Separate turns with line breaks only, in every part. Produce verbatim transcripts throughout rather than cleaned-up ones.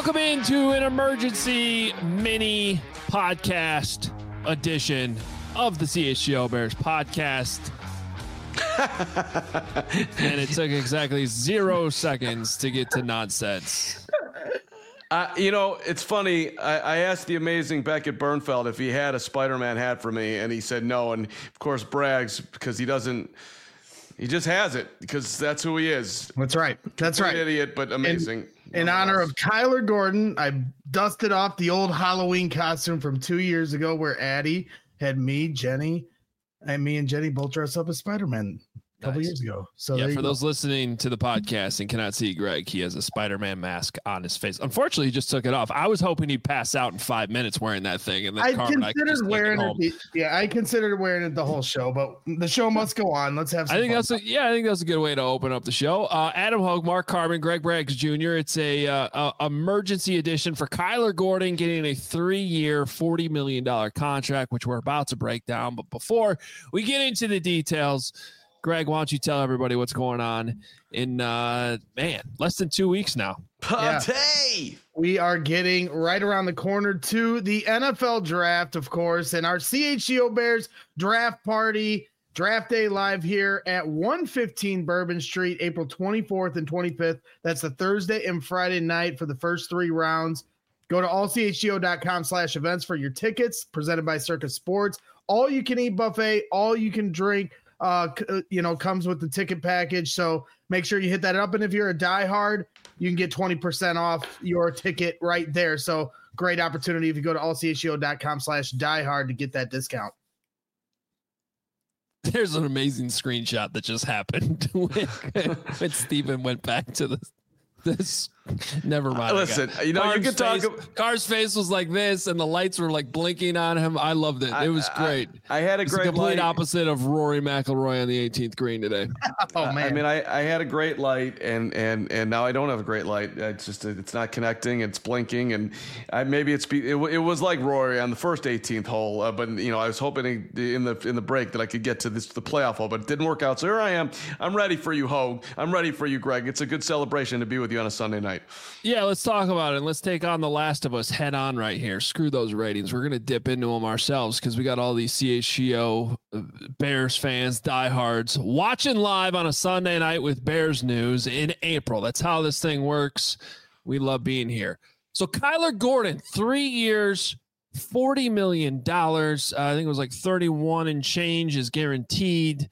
Welcome into an emergency mini podcast edition of the C H G O Bears podcast. And it took exactly zero seconds to get to nonsense.
Uh, you know, it's funny. I, I asked the amazing Beckett Bernfeld if he had a Spider-Man hat for me, and he said no. And of course, brags because he doesn't. He just has it because that's who he is.
That's right. That's right.
Idiot, but amazing.
In, in honor of Kyler Gordon, I dusted off the old Halloween costume from two years ago, where Addie had me, Jenny, and me and Jenny both dressed up as Spider-Man. A couple
Nice.
years ago. So
yeah, for
go.
those listening to the podcast and cannot see Greg, he has a Spider-Man mask on his face. Unfortunately, he just took it off. I was hoping he'd pass out in five minutes wearing that thing, and then
I
Carmen and
considered
I
wearing
it.
it. The, yeah, I considered wearing it the whole show, but the show must go on. Let's have. Some
I think
fun.
that's a, yeah, I think that's a good way to open up the show. Uh, Adam Hogue, Mark Carbon, Greg Braggs Junior It's a, uh, a emergency edition for Kyler Gordon getting a three-year, forty million dollars contract, which we're about to break down. But before we get into the details, Greg, why don't you tell everybody what's going on in, uh, man, less than two weeks now.
Pate!
Yeah. We are getting right around the corner to the N F L draft, of course, and our C H G O Bears draft party, draft day live here at one fifteen Bourbon Street, April twenty-fourth and twenty-fifth. That's the Thursday and Friday night for the first three rounds. Go to all c h g o dot com slash events for your tickets, presented by Circus Sports. All you can eat buffet, all you can drink. Uh, you know, comes with the ticket package. So make sure you hit that up. And if you're a diehard, you can get twenty percent off your ticket right there. So great opportunity if you go to all c h g o dot com slash diehard to get that discount.
There's an amazing screenshot that just happened when, when Steven went back to the this. Never mind.
Uh, listen, you know,
Carr's
you can talk.
Face, Carr's face was like this, and the lights were like blinking on him. I loved it. It was great.
I, I had a
it's
great
the complete
light.
opposite of Rory McIlroy on the eighteenth green today.
Oh man!
I mean, I, I had a great light, and and and now I don't have a great light. It's just it's not connecting. It's blinking, and I, maybe it's it, it was like Rory on the first eighteenth hole. Uh, but you know, I was hoping in the in the break that I could get to this the playoff hole, but it didn't work out. So here I am. I'm ready for you, Hogue. I'm ready for you, Greg. It's a good celebration to be with you on a Sunday night.
Yeah, let's talk about it. And let's take on The Last of Us head on right here. Screw those ratings. We're going to dip into them ourselves because we got all these C H G O Bears fans, diehards, watching live on a Sunday night with Bears news in April. That's how this thing works. We love being here. So Kyler Gordon, three years, forty million dollars. Uh, I think it was like thirty-one and change is guaranteed.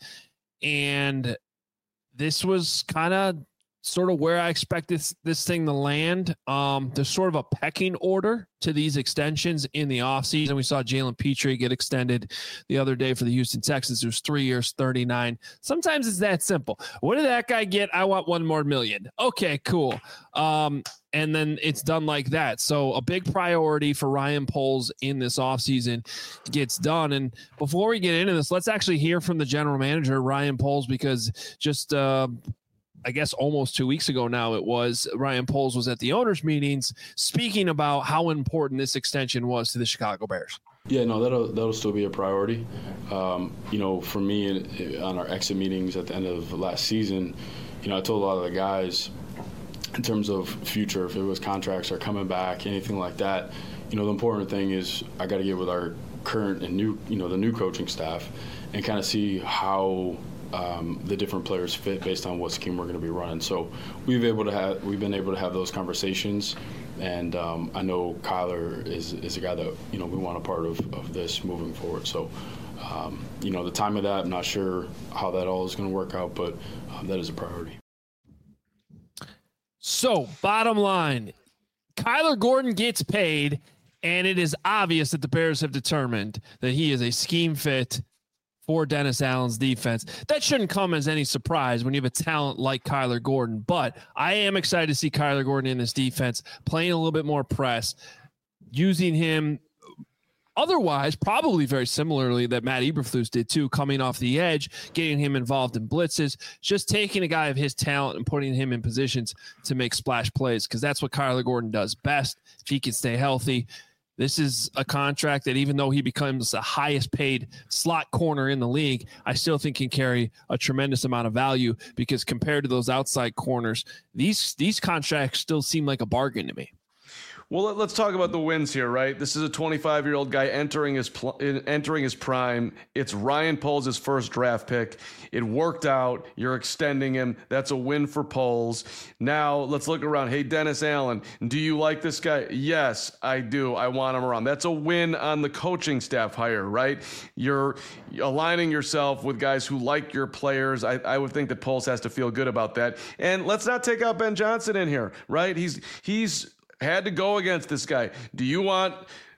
And this was kind of sort of where I expect this, this thing to land. Um, there's sort of a pecking order to these extensions in the offseason. We saw Jalen Petrie get extended the other day for the Houston Texans. It was three years, thirty-nine. Sometimes it's that simple. What did that guy get? I want one more million. Okay, cool. Um, and then it's done like that. So a big priority for Ryan Poles in this offseason gets done. And before we get into this, let's actually hear from the general manager, Ryan Poles, because just uh, – I guess almost two weeks ago now it was, Ryan Poles was at the owners' meetings speaking about how important this extension was to the Chicago Bears.
Yeah, no, that'll that'll still be a priority. Um, you know, for me, in, on our exit meetings at the end of last season, you know, I told a lot of the guys in terms of future, if it was contracts are coming back, anything like that, you know, the important thing is I got to get with our current and new, you know, the new coaching staff and kind of see how Um, the different players fit based on what scheme we're going to be running. So we've able to have we've been able to have those conversations, and um, I know Kyler is is a guy that you know we want a part of, of this moving forward. So um, you know the time of that, I'm not sure how that all is going to work out, but um, that is a priority.
So bottom line, Kyler Gordon gets paid, and it is obvious that the Bears have determined that he is a scheme fit for Dennis Allen's defense. That shouldn't come as any surprise when you have a talent like Kyler Gordon, but I am excited to see Kyler Gordon in this defense, playing a little bit more press, using him otherwise probably very similarly that Matt Eberflus did too, coming off the edge, getting him involved in blitzes, just taking a guy of his talent and putting him in positions to make splash plays, because that's what Kyler Gordon does best if he can stay healthy. This is a contract that, even though he becomes the highest paid slot corner in the league, I still think can carry a tremendous amount of value, because compared to those outside corners, these these contracts still seem like a bargain to me.
Well, let's talk about the wins here, right? This is a twenty-five-year-old guy entering his pl- entering his prime. It's Ryan Poles' first draft pick. It worked out. You're extending him. That's a win for Poles. Now, let's look around. Hey, Dennis Allen, do you like this guy? Yes, I do. I want him around. That's a win on the coaching staff hire, right? You're aligning yourself with guys who like your players. I, I would think that Poles has to feel good about that. And let's not take out Ben Johnson in here, right? He's he's had to go against this guy. Do you want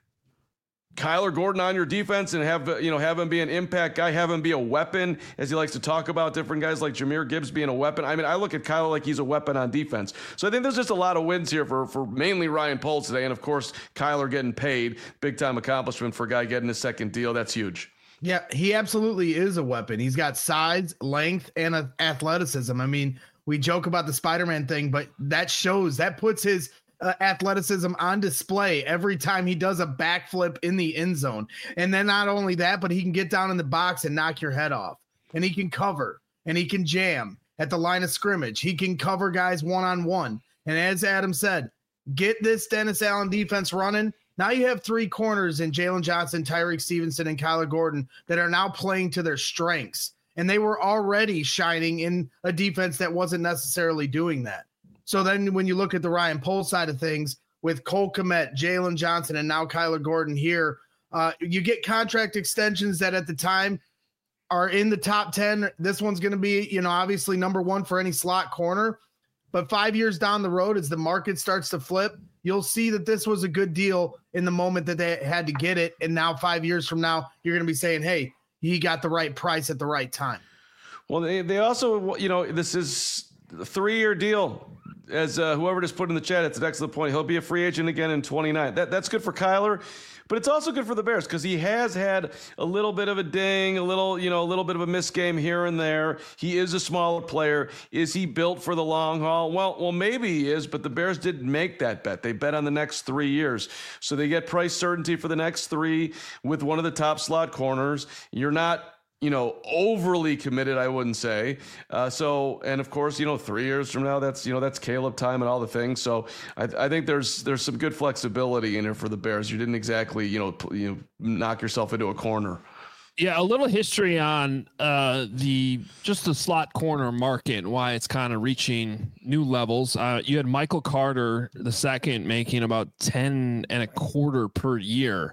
Kyler Gordon on your defense and have you know have him be an impact guy, have him be a weapon, as he likes to talk about different guys like Jahmyr Gibbs being a weapon? I mean, I look at Kyler like he's a weapon on defense. So I think there's just a lot of wins here for, for mainly Ryan Poles today. And, of course, Kyler getting paid. Big-time accomplishment for a guy getting his second deal. That's huge.
Yeah, he absolutely is a weapon. He's got size, length, and uh, athleticism. I mean, we joke about the Spider-Man thing, but that shows, that puts his – Uh, athleticism on display every time he does a backflip in the end zone. And then not only that, but he can get down in the box and knock your head off. And he can cover and he can jam at the line of scrimmage. He can cover guys one-on-one. And as Adam said, get this Dennis Allen defense running. Now you have three corners in Jalen Johnson, Tyreek Stevenson, and Kyler Gordon that are now playing to their strengths. And they were already shining in a defense that wasn't necessarily doing that. So then when you look at the Ryan Poles side of things with Cole Kmet, Jalen Johnson, and now Kyler Gordon here, uh, you get contract extensions that at the time are in the top ten. This one's going to be, you know, obviously number one for any slot corner. But five years down the road, as the market starts to flip, you'll see that this was a good deal in the moment that they had to get it. And now five years from now, you're going to be saying, hey, he got the right price at the right time.
Well, they, they also, you know, this is a three-year deal. As uh, whoever just put in the chat, it's an excellent point. He'll be a free agent again in twenty-nine. That that's good for Kyler, but it's also good for the Bears because he has had a little bit of a ding, a little, you know, a little bit of a missed game here and there. He is a smaller player. Is he built for the long haul? Well, well, maybe he is, but the Bears didn't make that bet. They bet on the next three years. So they get price certainty for the next three with one of the top slot corners. You're not, you know, overly committed, I wouldn't say. Uh, so, and of course, you know, three years from now, that's, you know, that's Caleb time and all the things. So I, I think there's, there's some good flexibility in here for the Bears. You didn't exactly, you know, you know, knock yourself into a corner.
Yeah. A little history on uh, the, just the slot corner market, why it's kind of reaching new levels. Uh, you had Michael Carter, the second, making about ten and a quarter per year.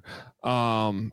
Um,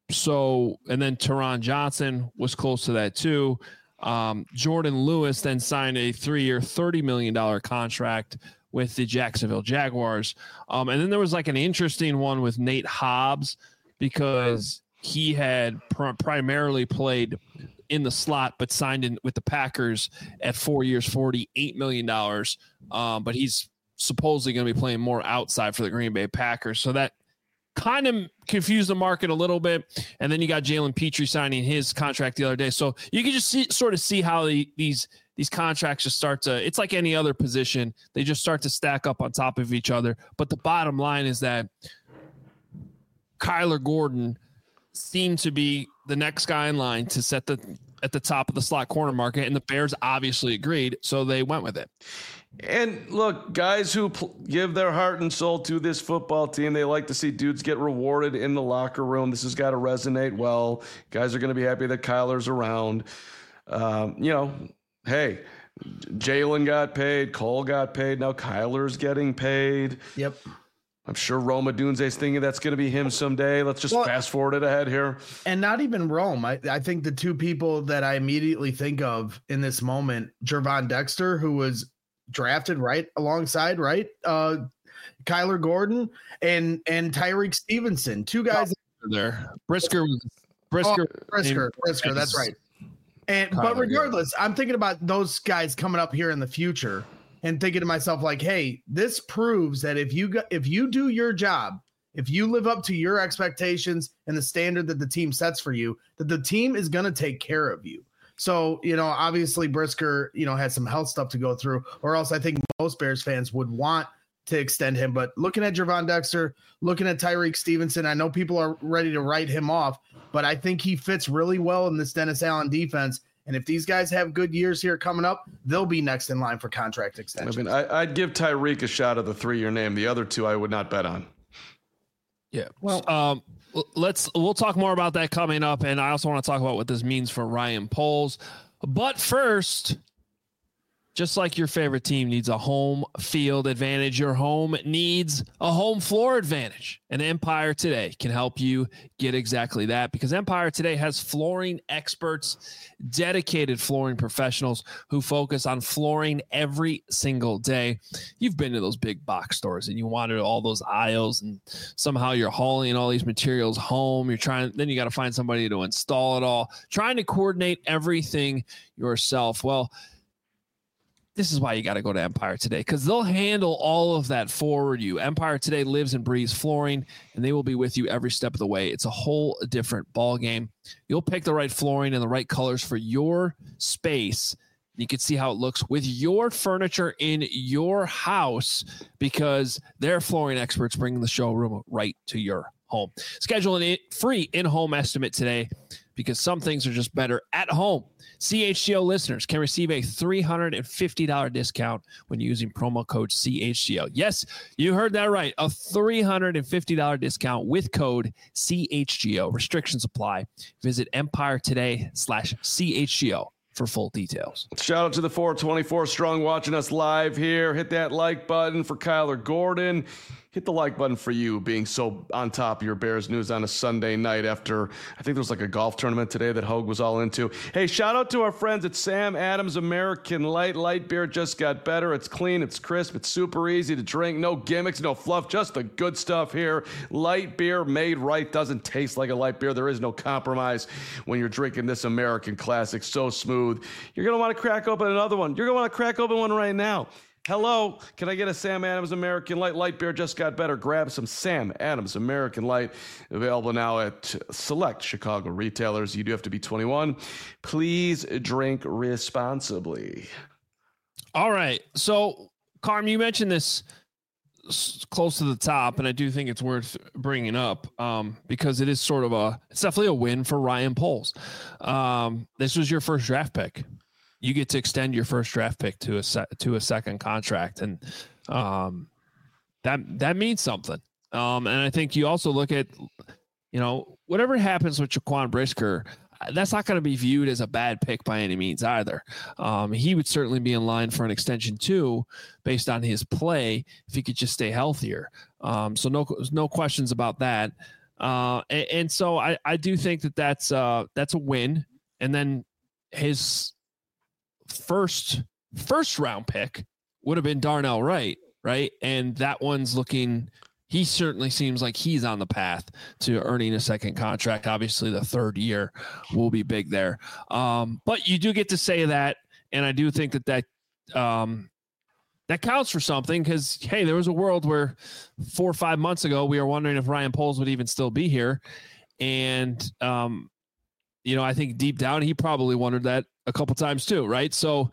So, and then Teron Johnson was close to that too. Um, Jordan Lewis then signed a three-year, thirty million dollars contract with the Jacksonville Jaguars. Um, and then there was like an interesting one with Nate Hobbs because he had pr- primarily played in the slot, but signed in with the Packers at four years, forty-eight million dollars. Um, but he's supposedly going to be playing more outside for the Green Bay Packers. So that kind of confused the market a little bit. And then you got Jalen Petrie signing his contract the other day. So you can just see, sort of see how the, these, these contracts just start to, it's like any other position. They just start to stack up on top of each other. But the bottom line is that Kyler Gordon seemed to be the next guy in line to set the, at the top of the slot corner market. And the Bears obviously agreed. So they went with it.
And look, guys who pl- give their heart and soul to this football team, they like to see dudes get rewarded in the locker room. This has got to resonate well. Guys are going to be happy that Kyler's around. Um, you know, hey, Jalen got paid. Cole got paid. Now Kyler's getting paid.
Yep. I'm
sure Rome Odunze's thinking that's going to be him someday. Let's just well, fast forward it ahead here.
And not even Rome. I, I think the two people that I immediately think of in this moment, Gervon Dexter, who was drafted right alongside, right? Uh, Kyler Gordon and and Tyreek Stevenson, two guys
oh, there. Brisker was Brisker,
oh, Brisker, Brisker. That's right. And Kyler, but regardless, yeah. I'm thinking about those guys coming up here in the future and thinking to myself, like, hey, this proves that if you got, if you do your job, if you live up to your expectations and the standard that the team sets for you, that the team is going to take care of you. So, you know, obviously Brisker, you know, has some health stuff to go through, or else I think most Bears fans would want to extend him. But looking at Gervon Dexter, looking at Tyreek Stevenson, I know people are ready to write him off, but I think he fits really well in this Dennis Allen defense. And if these guys have good years here coming up, they'll be next in line for contract extension.
I mean, I, I'd give Tyreek a shot at the three-year name. The other two I would not bet on.
Yeah. Well, um, let's we'll talk more about that coming up, and I also want to talk about what this means for Ryan Poles. But first, just like your favorite team needs a home field advantage, your home needs a home floor advantage. And Empire Today can help you get exactly that, because Empire Today has flooring experts, dedicated flooring professionals who focus on flooring every single day. You've been to those big box stores and you wanted all those aisles, and somehow you're hauling all these materials home. You're trying, then you got to find somebody to install it all, trying to coordinate everything yourself. Well, this is why you got to go to Empire Today, because they'll handle all of that for you. Empire Today lives and breathes flooring, and they will be with you every step of the way. It's a whole different ball game. You'll pick the right flooring and the right colors for your space. You can see how it looks with your furniture in your house, because their flooring experts bring the showroom right to your home. Schedule a free in-home estimate today, because some things are just better at home. C H G O listeners can receive a three hundred fifty dollars discount when using promo code C H G O. Yes, you heard that right. A three hundred fifty dollars discount with code C H G O. Restrictions apply. Visit Empire Today slash C H G O for full details.
Shout out to the four twenty-four strong watching us live here. Hit that like button for Kyler Gordon. Hit the like button for you being so on top of your Bears news on a Sunday night after, I think there was like a golf tournament today that Hogue was all into. Hey, shout out to our friends at Sam Adams American Light. Light beer just got better. It's clean, it's crisp, it's super easy to drink. No gimmicks, no fluff, just the good stuff here. Light beer made right, doesn't taste like a light beer. There is no compromise when you're drinking this American classic. So smooth. You're going to want to crack open another one. You're going to want to crack open one right now. Hello, can I get a Sam Adams American Light? Light beer just got better. Grab some Sam Adams American Light. Available now at select Chicago retailers. You do have to be twenty-one. Please drink responsibly.
All right. So, Carm, you mentioned this close to the top, and I do think it's worth bringing up um, because it is sort of a, it's definitely a win for Ryan Poles. Um, this was your first draft pick. You get to extend your first draft pick to a se- to a second contract, and um, that that means something. Um, and I think you also look at, you know, whatever happens with Jaquan Brisker, that's not going to be viewed as a bad pick by any means either. Um, he would certainly be in line for an extension too, based on his play, if he could just stay healthier. Um, so no no questions about that. Uh, and, and so I I do think that that's uh that's a win. And then his first first round pick would have been Darnell Wright, right? And that one's looking, he certainly seems like he's on the path to earning a second contract. Obviously the third year will be big there. Um, but you do get to say that. And I do think that that, um, that counts for something, because, hey, there was a world where four or five months ago, we were wondering if Ryan Poles would even still be here. And, um, you know, I think deep down, he probably wondered that a couple times too, right? So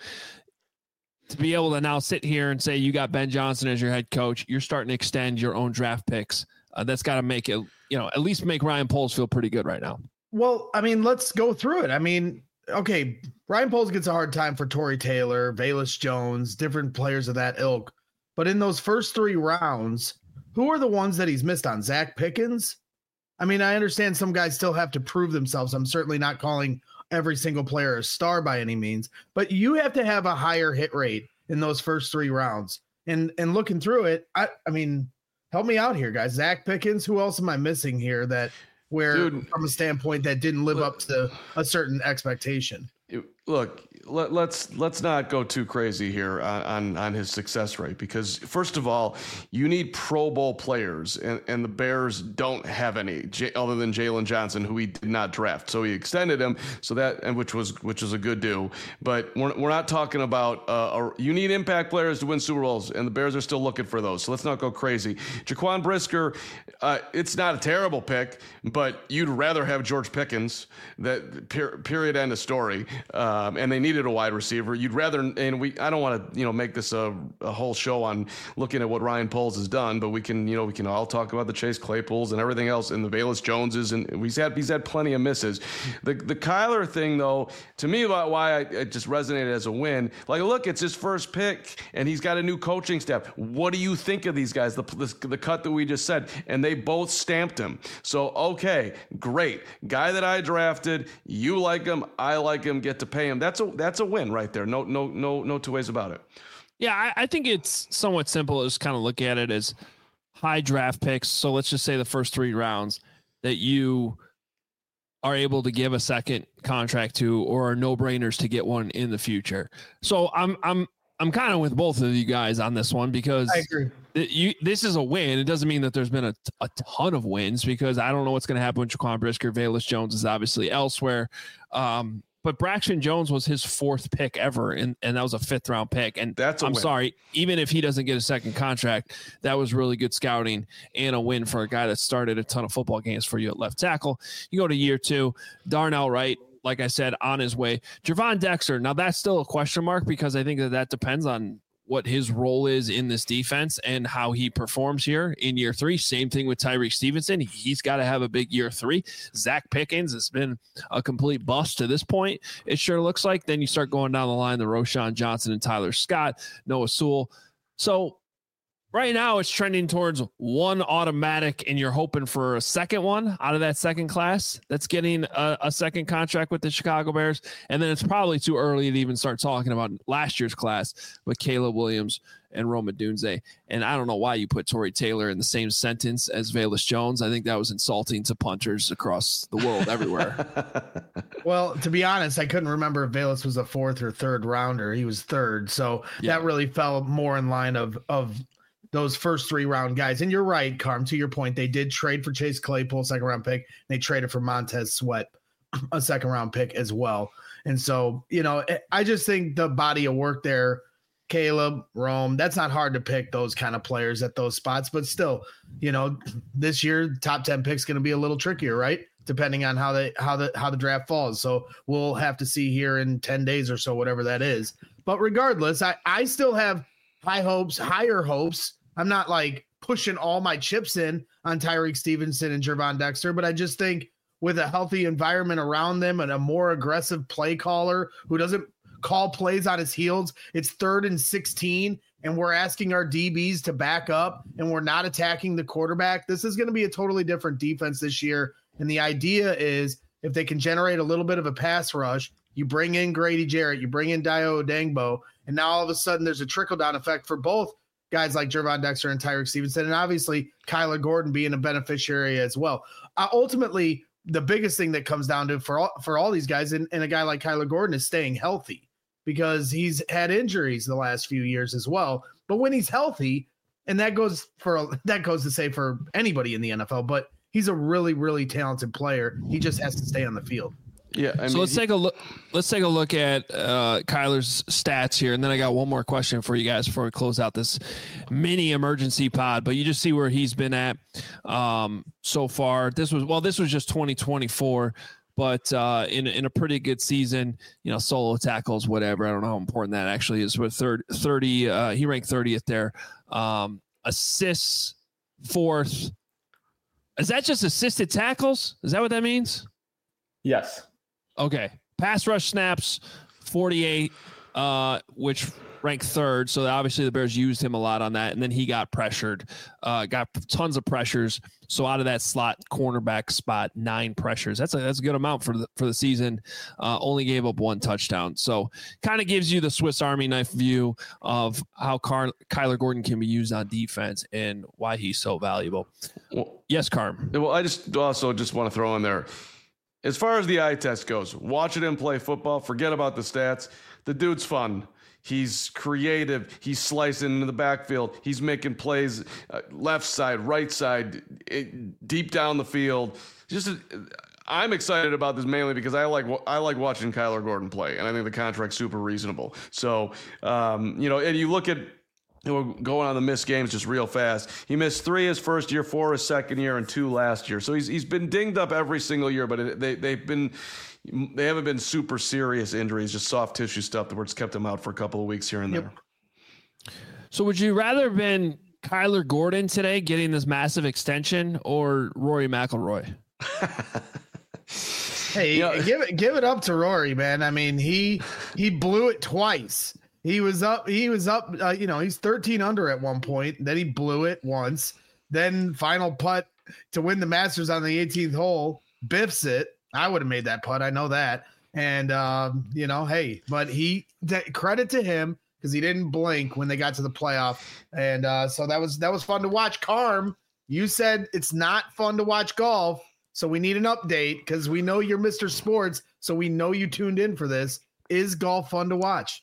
to be able to now sit here and say you got Ben Johnson as your head coach, you're starting to extend your own draft picks. Uh, that's got to make it, you know, at least make Ryan Poles feel pretty good right now.
Well, I mean, let's go through it. I mean, okay, Ryan Poles gets a hard time for Torrey Taylor, Velus Jones, different players of that ilk. But in those first three rounds, who are the ones that he's missed on? Zach Pickens? I mean, I understand some guys still have to prove themselves. I'm certainly not calling every single player a star by any means, but you have to have a higher hit rate in those first three rounds. And and looking through it, I, I mean, help me out here, guys. Zach Pickens, who else am I missing here that where Dude, from a standpoint that didn't live look, up to a certain expectation?
Look, let, let's let's not go too crazy here on, on, on his success rate, because first of all, you need Pro Bowl players, and, and the Bears don't have any J, other than Jalen Johnson, who he did not draft. So he extended him, so that and which was which was a good do. But we're we're not talking about uh, a, you need impact players to win Super Bowls, and the Bears are still looking for those. So let's not go crazy. Jaquan Brisker, uh, it's not a terrible pick, but you'd rather have George Pickens. That per, period end of story. Um, and they needed needed a wide receiver. You'd rather, and we, I don't want to, you know, make this a, a whole show on looking at what Ryan Poles has done, but we can, you know, we can all talk about the Chase Claypools and everything else, and the Velus Joneses, and we've had he's had plenty of misses. The the Kyler thing, though, to me, about why I, it just resonated as a win. Like, look, it's his first pick, and he's got a new coaching staff. What do you think of these guys? The the, the cut that we just said, and they both stamped him. So okay, great guy that I drafted. You like him, I like him. Get to pay him. That's a that's a win right there. No no no no two ways about it.
Yeah, I, I think it's somewhat simple. Just kind of look at it as high draft picks. So let's just say the first three rounds that you are able to give a second contract to, or are no brainers to get one in the future. So I'm I'm I'm kind of with both of you guys on this one, because
I agree.
Th- you, this is a win. It doesn't mean that there's been a, a ton of wins, because I don't know what's going to happen with Jaquan Brisker. Velus Jones is obviously elsewhere. Um, But Braxton Jones was his fourth pick ever, and, and that was a fifth round pick. And
That's a
I'm
win.
sorry, even if he doesn't get a second contract, that was really good scouting and a win for a guy that started a ton of football games for you at left tackle. You go to year two, Darnell Wright, like I said, on his way. Gervon Dexter, now that's still a question mark, because I think that that depends on what his role is in this defense and how he performs here in year three. Same thing with Tyreek Stevenson. He's got to have a big year three. Zach Pickens has been a complete bust to this point, it sure looks like. Then you start going down the line, the Roshan Johnson and Tyler Scott, Noah Sewell. So right now it's trending towards one automatic, and you're hoping for a second one out of that second class that's getting a, a second contract with the Chicago Bears. And then it's probably too early to even start talking about last year's class with Caleb Williams and Rome Odunze. And I don't know why you put Torrey Taylor in the same sentence as Velus Jones. I think that was insulting to punters across the world everywhere.
Well, to be honest, I couldn't remember if Velus was a fourth or third rounder. He was third. So
Yeah.
that really fell more in line of, of, those first three round guys. And you're right, Carm, to your point, they did trade for Chase Claypool, second round pick. They traded for Montez Sweat, a second round pick as well. And so, you know, I just think the body of work there, Caleb, Rome, that's not hard to pick those kind of players at those spots, but still, you know, this year, top ten picks going to be a little trickier, right? Depending on how they, how the, how the draft falls. So we'll have to see here in ten days or so, whatever that is. But regardless, I, I still have high hopes, higher hopes. I'm not like pushing all my chips in on Tyreek Stevenson and Gervon Dexter, but I just think with a healthy environment around them and a more aggressive play caller who doesn't call plays on his heels, it's third and sixteen, and we're asking our D Bs to back up, and we're not attacking the quarterback. This is going to be a totally different defense this year. And the idea is if they can generate a little bit of a pass rush, you bring in Grady Jarrett, you bring in Dio Odengbo, and now all of a sudden there's a trickle-down effect for both guys like Gervon Dexter and Tyreek Stevenson, and obviously Kyler Gordon being a beneficiary as well. Uh, ultimately, the biggest thing that comes down to for all, for all these guys and, and a guy like Kyler Gordon is staying healthy, because he's had injuries the last few years as well. But when he's healthy, and that goes for that goes to say for anybody in the N F L, but he's a really, really talented player. He just has to stay on the field.
Yeah. I
so
mean,
let's
he,
take a look. Let's take a look at uh, Kyler's stats here, and then I got one more question for you guys before we close out this mini emergency pod. But you just see where he's been at um, so far. This was well, this was just twenty twenty-four, but uh, in in a pretty good season. You know, solo tackles, whatever. I don't know how important that actually is. With third, thirty, uh, he ranked thirtieth there. Um, assists, fourth. Is that just assisted tackles? Is that what that means?
Yes.
Okay. Pass rush snaps, forty-eight, uh, which ranked third. So obviously the Bears used him a lot on that. And then he got pressured, uh, got tons of pressures. So out of that slot cornerback spot, nine pressures. That's a, that's a good amount for the, for the season. Uh, only gave up one touchdown. So kind of gives you the Swiss Army knife view of how Car- Kyler Gordon can be used on defense and why he's so valuable.
well,
Yes, Carm.
well, I just also just want to throw in there, as far as the eye test goes, watching him play football, forget about the stats. The dude's fun. He's creative. He's slicing into the backfield. He's making plays uh, left side, right side, it, deep down the field. Just, a, I'm excited about this mainly because I like I like watching Kyler Gordon play, and I think the contract's super reasonable. So, um, you know, and you look at we're going on the missed games just real fast. He missed three his first year, four his second year, and two last year. So he's he's been dinged up every single year, but it, they they've been they haven't been super serious injuries, just soft tissue stuff that were just kept him out for a couple of weeks here and yep. there.
So would you rather have been Kyler Gordon today getting this massive extension or Rory McIlroy?
Hey, you know, give it give it up to Rory, man. I mean, he he blew it twice. He was up. He was up. Uh, you know, he's thirteen under at one point. Then he blew it once. Then final putt to win the Masters on the eighteenth hole. Biffs it. I would have made that putt. I know that. And um, you know, hey, but he credit to him because he didn't blink when they got to the playoff. And uh, so that was that was fun to watch. Carm, you said it's not fun to watch golf. So we need an update because we know you're Mister Sports. So we know you tuned in for this. Is golf fun to watch?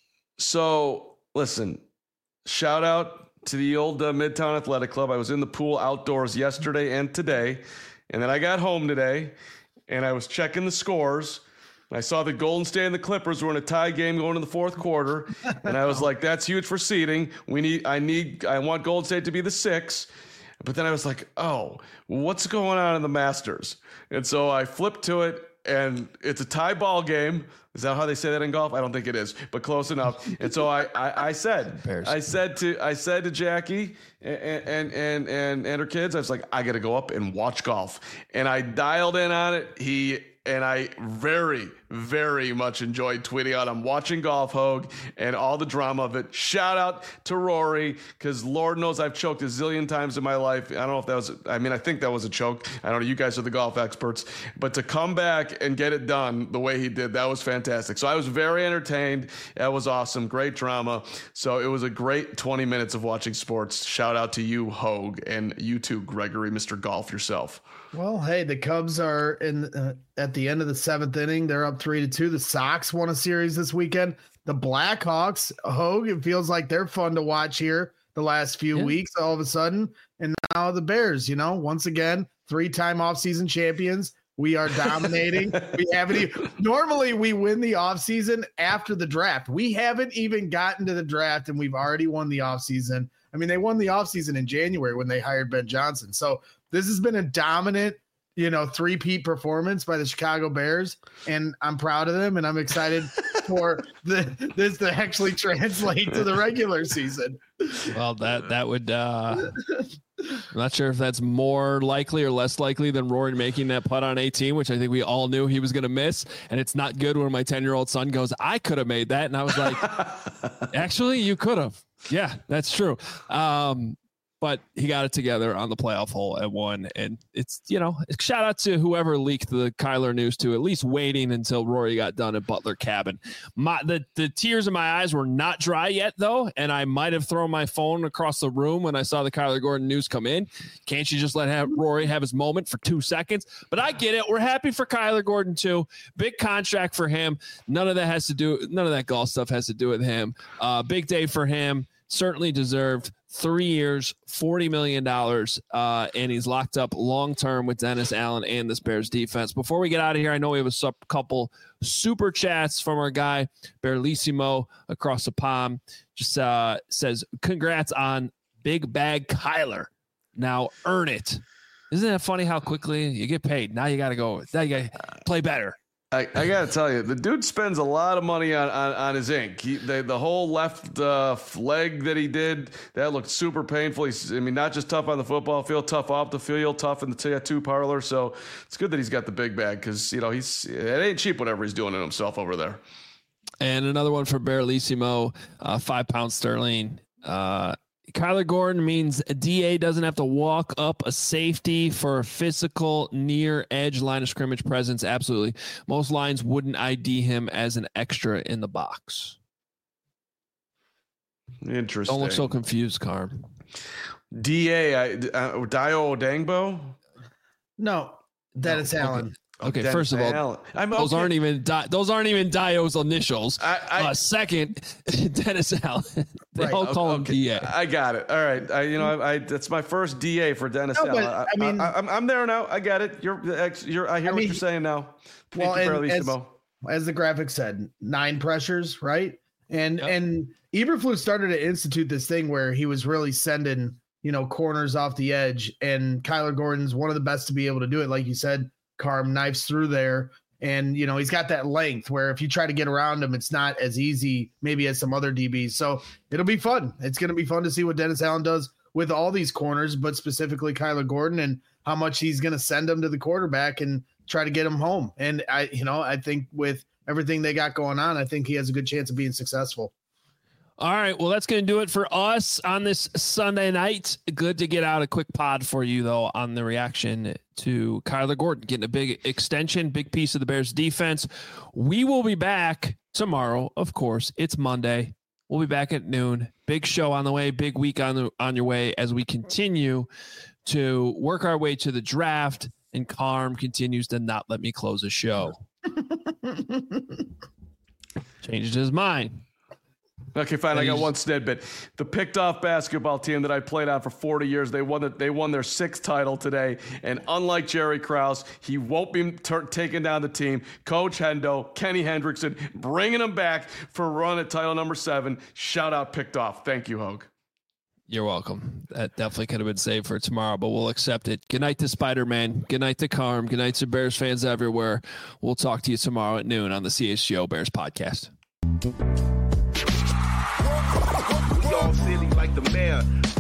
So listen, shout out to the old uh, Midtown Athletic Club. I was in the pool outdoors yesterday and today. And then I got home today and I was checking the scores. And I saw the Golden State and the Clippers were in a tie game going to the fourth quarter. And I was like, that's huge for seeding. We need, I need, I want Golden State to be the six. But then I was like, oh, what's going on in the Masters? And so I flipped to it, and it's a tie ball game. Is that how they say that in golf? I don't think it is, but close enough. And so I, I, I said, I said to, I said to Jackie and and and and, and her kids, I was like, I got to go up and watch golf. And I dialed in on it. He and I very, very much enjoyed tweeting out, I'm watching Golf Hogue and all the drama of it. Shout out to Rory, because Lord knows I've choked a zillion times in my life. I don't know if that was, I mean, I think that was a choke. I don't know. You guys are the golf experts. But to come back and get it done the way he did, that was fantastic. So I was very entertained. That was awesome. Great drama. So it was a great twenty minutes of watching sports. Shout out to you, Hogue, and you too, Gregory, Mister Golf yourself.
Well, hey, the Cubs are in uh, at the end of the seventh inning. They're up three to two. The Sox won a series this weekend. The Blackhawks, Hogue, it feels like they're fun to watch here the last few yeah. weeks all of a sudden. And now the Bears, you know, once again, three-time offseason champions. We are dominating. we haven't even, normally we win the offseason after the draft. We haven't even gotten to the draft, and we've already won the offseason. I mean, they won the offseason in January when they hired Ben Johnson. So this has been a dominant, you know, three-peat performance by the Chicago Bears, and I'm proud of them, and I'm excited for the this to actually translate to the regular season.
Well, that that would uh, I'm not sure if that's more likely or less likely than Rory making that putt on eighteen, which I think we all knew he was going to miss. And it's not good when my ten-year-old son goes, I could have made that. And I was like, actually, you could have. Yeah, that's true. Um, but he got it together on the playoff hole at one. And it's, you know, shout out to whoever leaked the Kyler news to at least waiting until Rory got done at Butler Cabin. My, the, the tears in my eyes were not dry yet, though. And I might have thrown my phone across the room when I saw the Kyler Gordon news come in. Can't you just let have Rory have his moment for two seconds? But I get it. We're happy for Kyler Gordon, too. Big contract for him. None of that has to do, none of that golf stuff has to do with him. Uh, big day for him. Certainly deserved. Three years, forty million dollars, uh, and he's locked up long-term with Dennis Allen and this Bears defense. Before we get out of here, I know we have a sub- couple super chats from our guy, Bearlissimo, across the pond. Just uh, says, congrats on Big Bag Kyler. Now earn it. Isn't it funny how quickly you get paid? Now you got to go. Now you got to play better.
I, I got to tell you, the dude spends a lot of money on, on, on his ink. He, the, the whole left uh, leg that he did, that looked super painful. He's, I mean, not just tough on the football field, tough off the field, tough in the tattoo parlor. So it's good that he's got the big bag because, you know, he's it ain't cheap whatever he's doing to himself over there.
And another one for Bearlissimo, uh, five pounds sterling. Uh, Kyler Gordon means a D A doesn't have to walk up a safety for a physical near edge line of scrimmage presence. Absolutely. Most lines wouldn't I D him as an extra in the box.
Interesting.
Don't look so confused, Carm.
D A, I, uh, Dio Odangbo?
No, Dennis
no,
Allen.
Okay. Okay, Dennis first of all,
I'm,
those
okay.
aren't even Di- those aren't even Dio's initials.
I, I,
uh, second, Dennis Allen. They
right,
all call
okay.
him D A.
I got it. All right, I, you know, I, I that's my first D A for Dennis
no,
Allen.
I,
I
mean,
I, I'm, I'm there now. I got it. You're, you're. I hear
I
what
mean,
you're saying now. Thank
well,
you,
and as,
Mo.
as the graphic said, nine pressures, right? And yep. and Eberflus started to institute this thing where he was really sending, you know, corners off the edge, and Kyler Gordon's one of the best to be able to do it. Like you said, Carm knives through there, and, you know, he's got that length where if you try to get around him, it's not as easy maybe as some other D Bs. So it'll be fun. It's going to be fun to see what Dennis Allen does with all these corners, but specifically Kyler Gordon, and how much he's going to send them to the quarterback and try to get him home. And I, you know, I think with everything they got going on, I think he has a good chance of being successful.
All right. Well, that's going to do it for us on this Sunday night. Good to get out a quick pod for you, though, on the reaction to Kyler Gordon getting a big extension, big piece of the Bears defense. We will be back tomorrow. Of course, it's Monday. We'll be back at noon. Big show on the way, big week on the, on your way as we continue to work our way to the draft, and Carm continues to not let me close the show. Changed his mind.
Okay, fine. I got one snidbit. The picked off basketball team that I played on for forty years, they won the, they won their sixth title today. And unlike Jerry Krause, he won't be ter- taking down the team. Coach Hendo, Kenny Hendrickson, bringing him back for a run at title number seven. Shout out picked off. Thank you, Hogue.
You're welcome. That definitely could have been saved for tomorrow, but we'll accept it. Good night to Spider-Man. Good night to Carm. Good night to Bears fans everywhere. We'll talk to you tomorrow at noon on the C H G O Bears podcast.
We all silly like the mayor.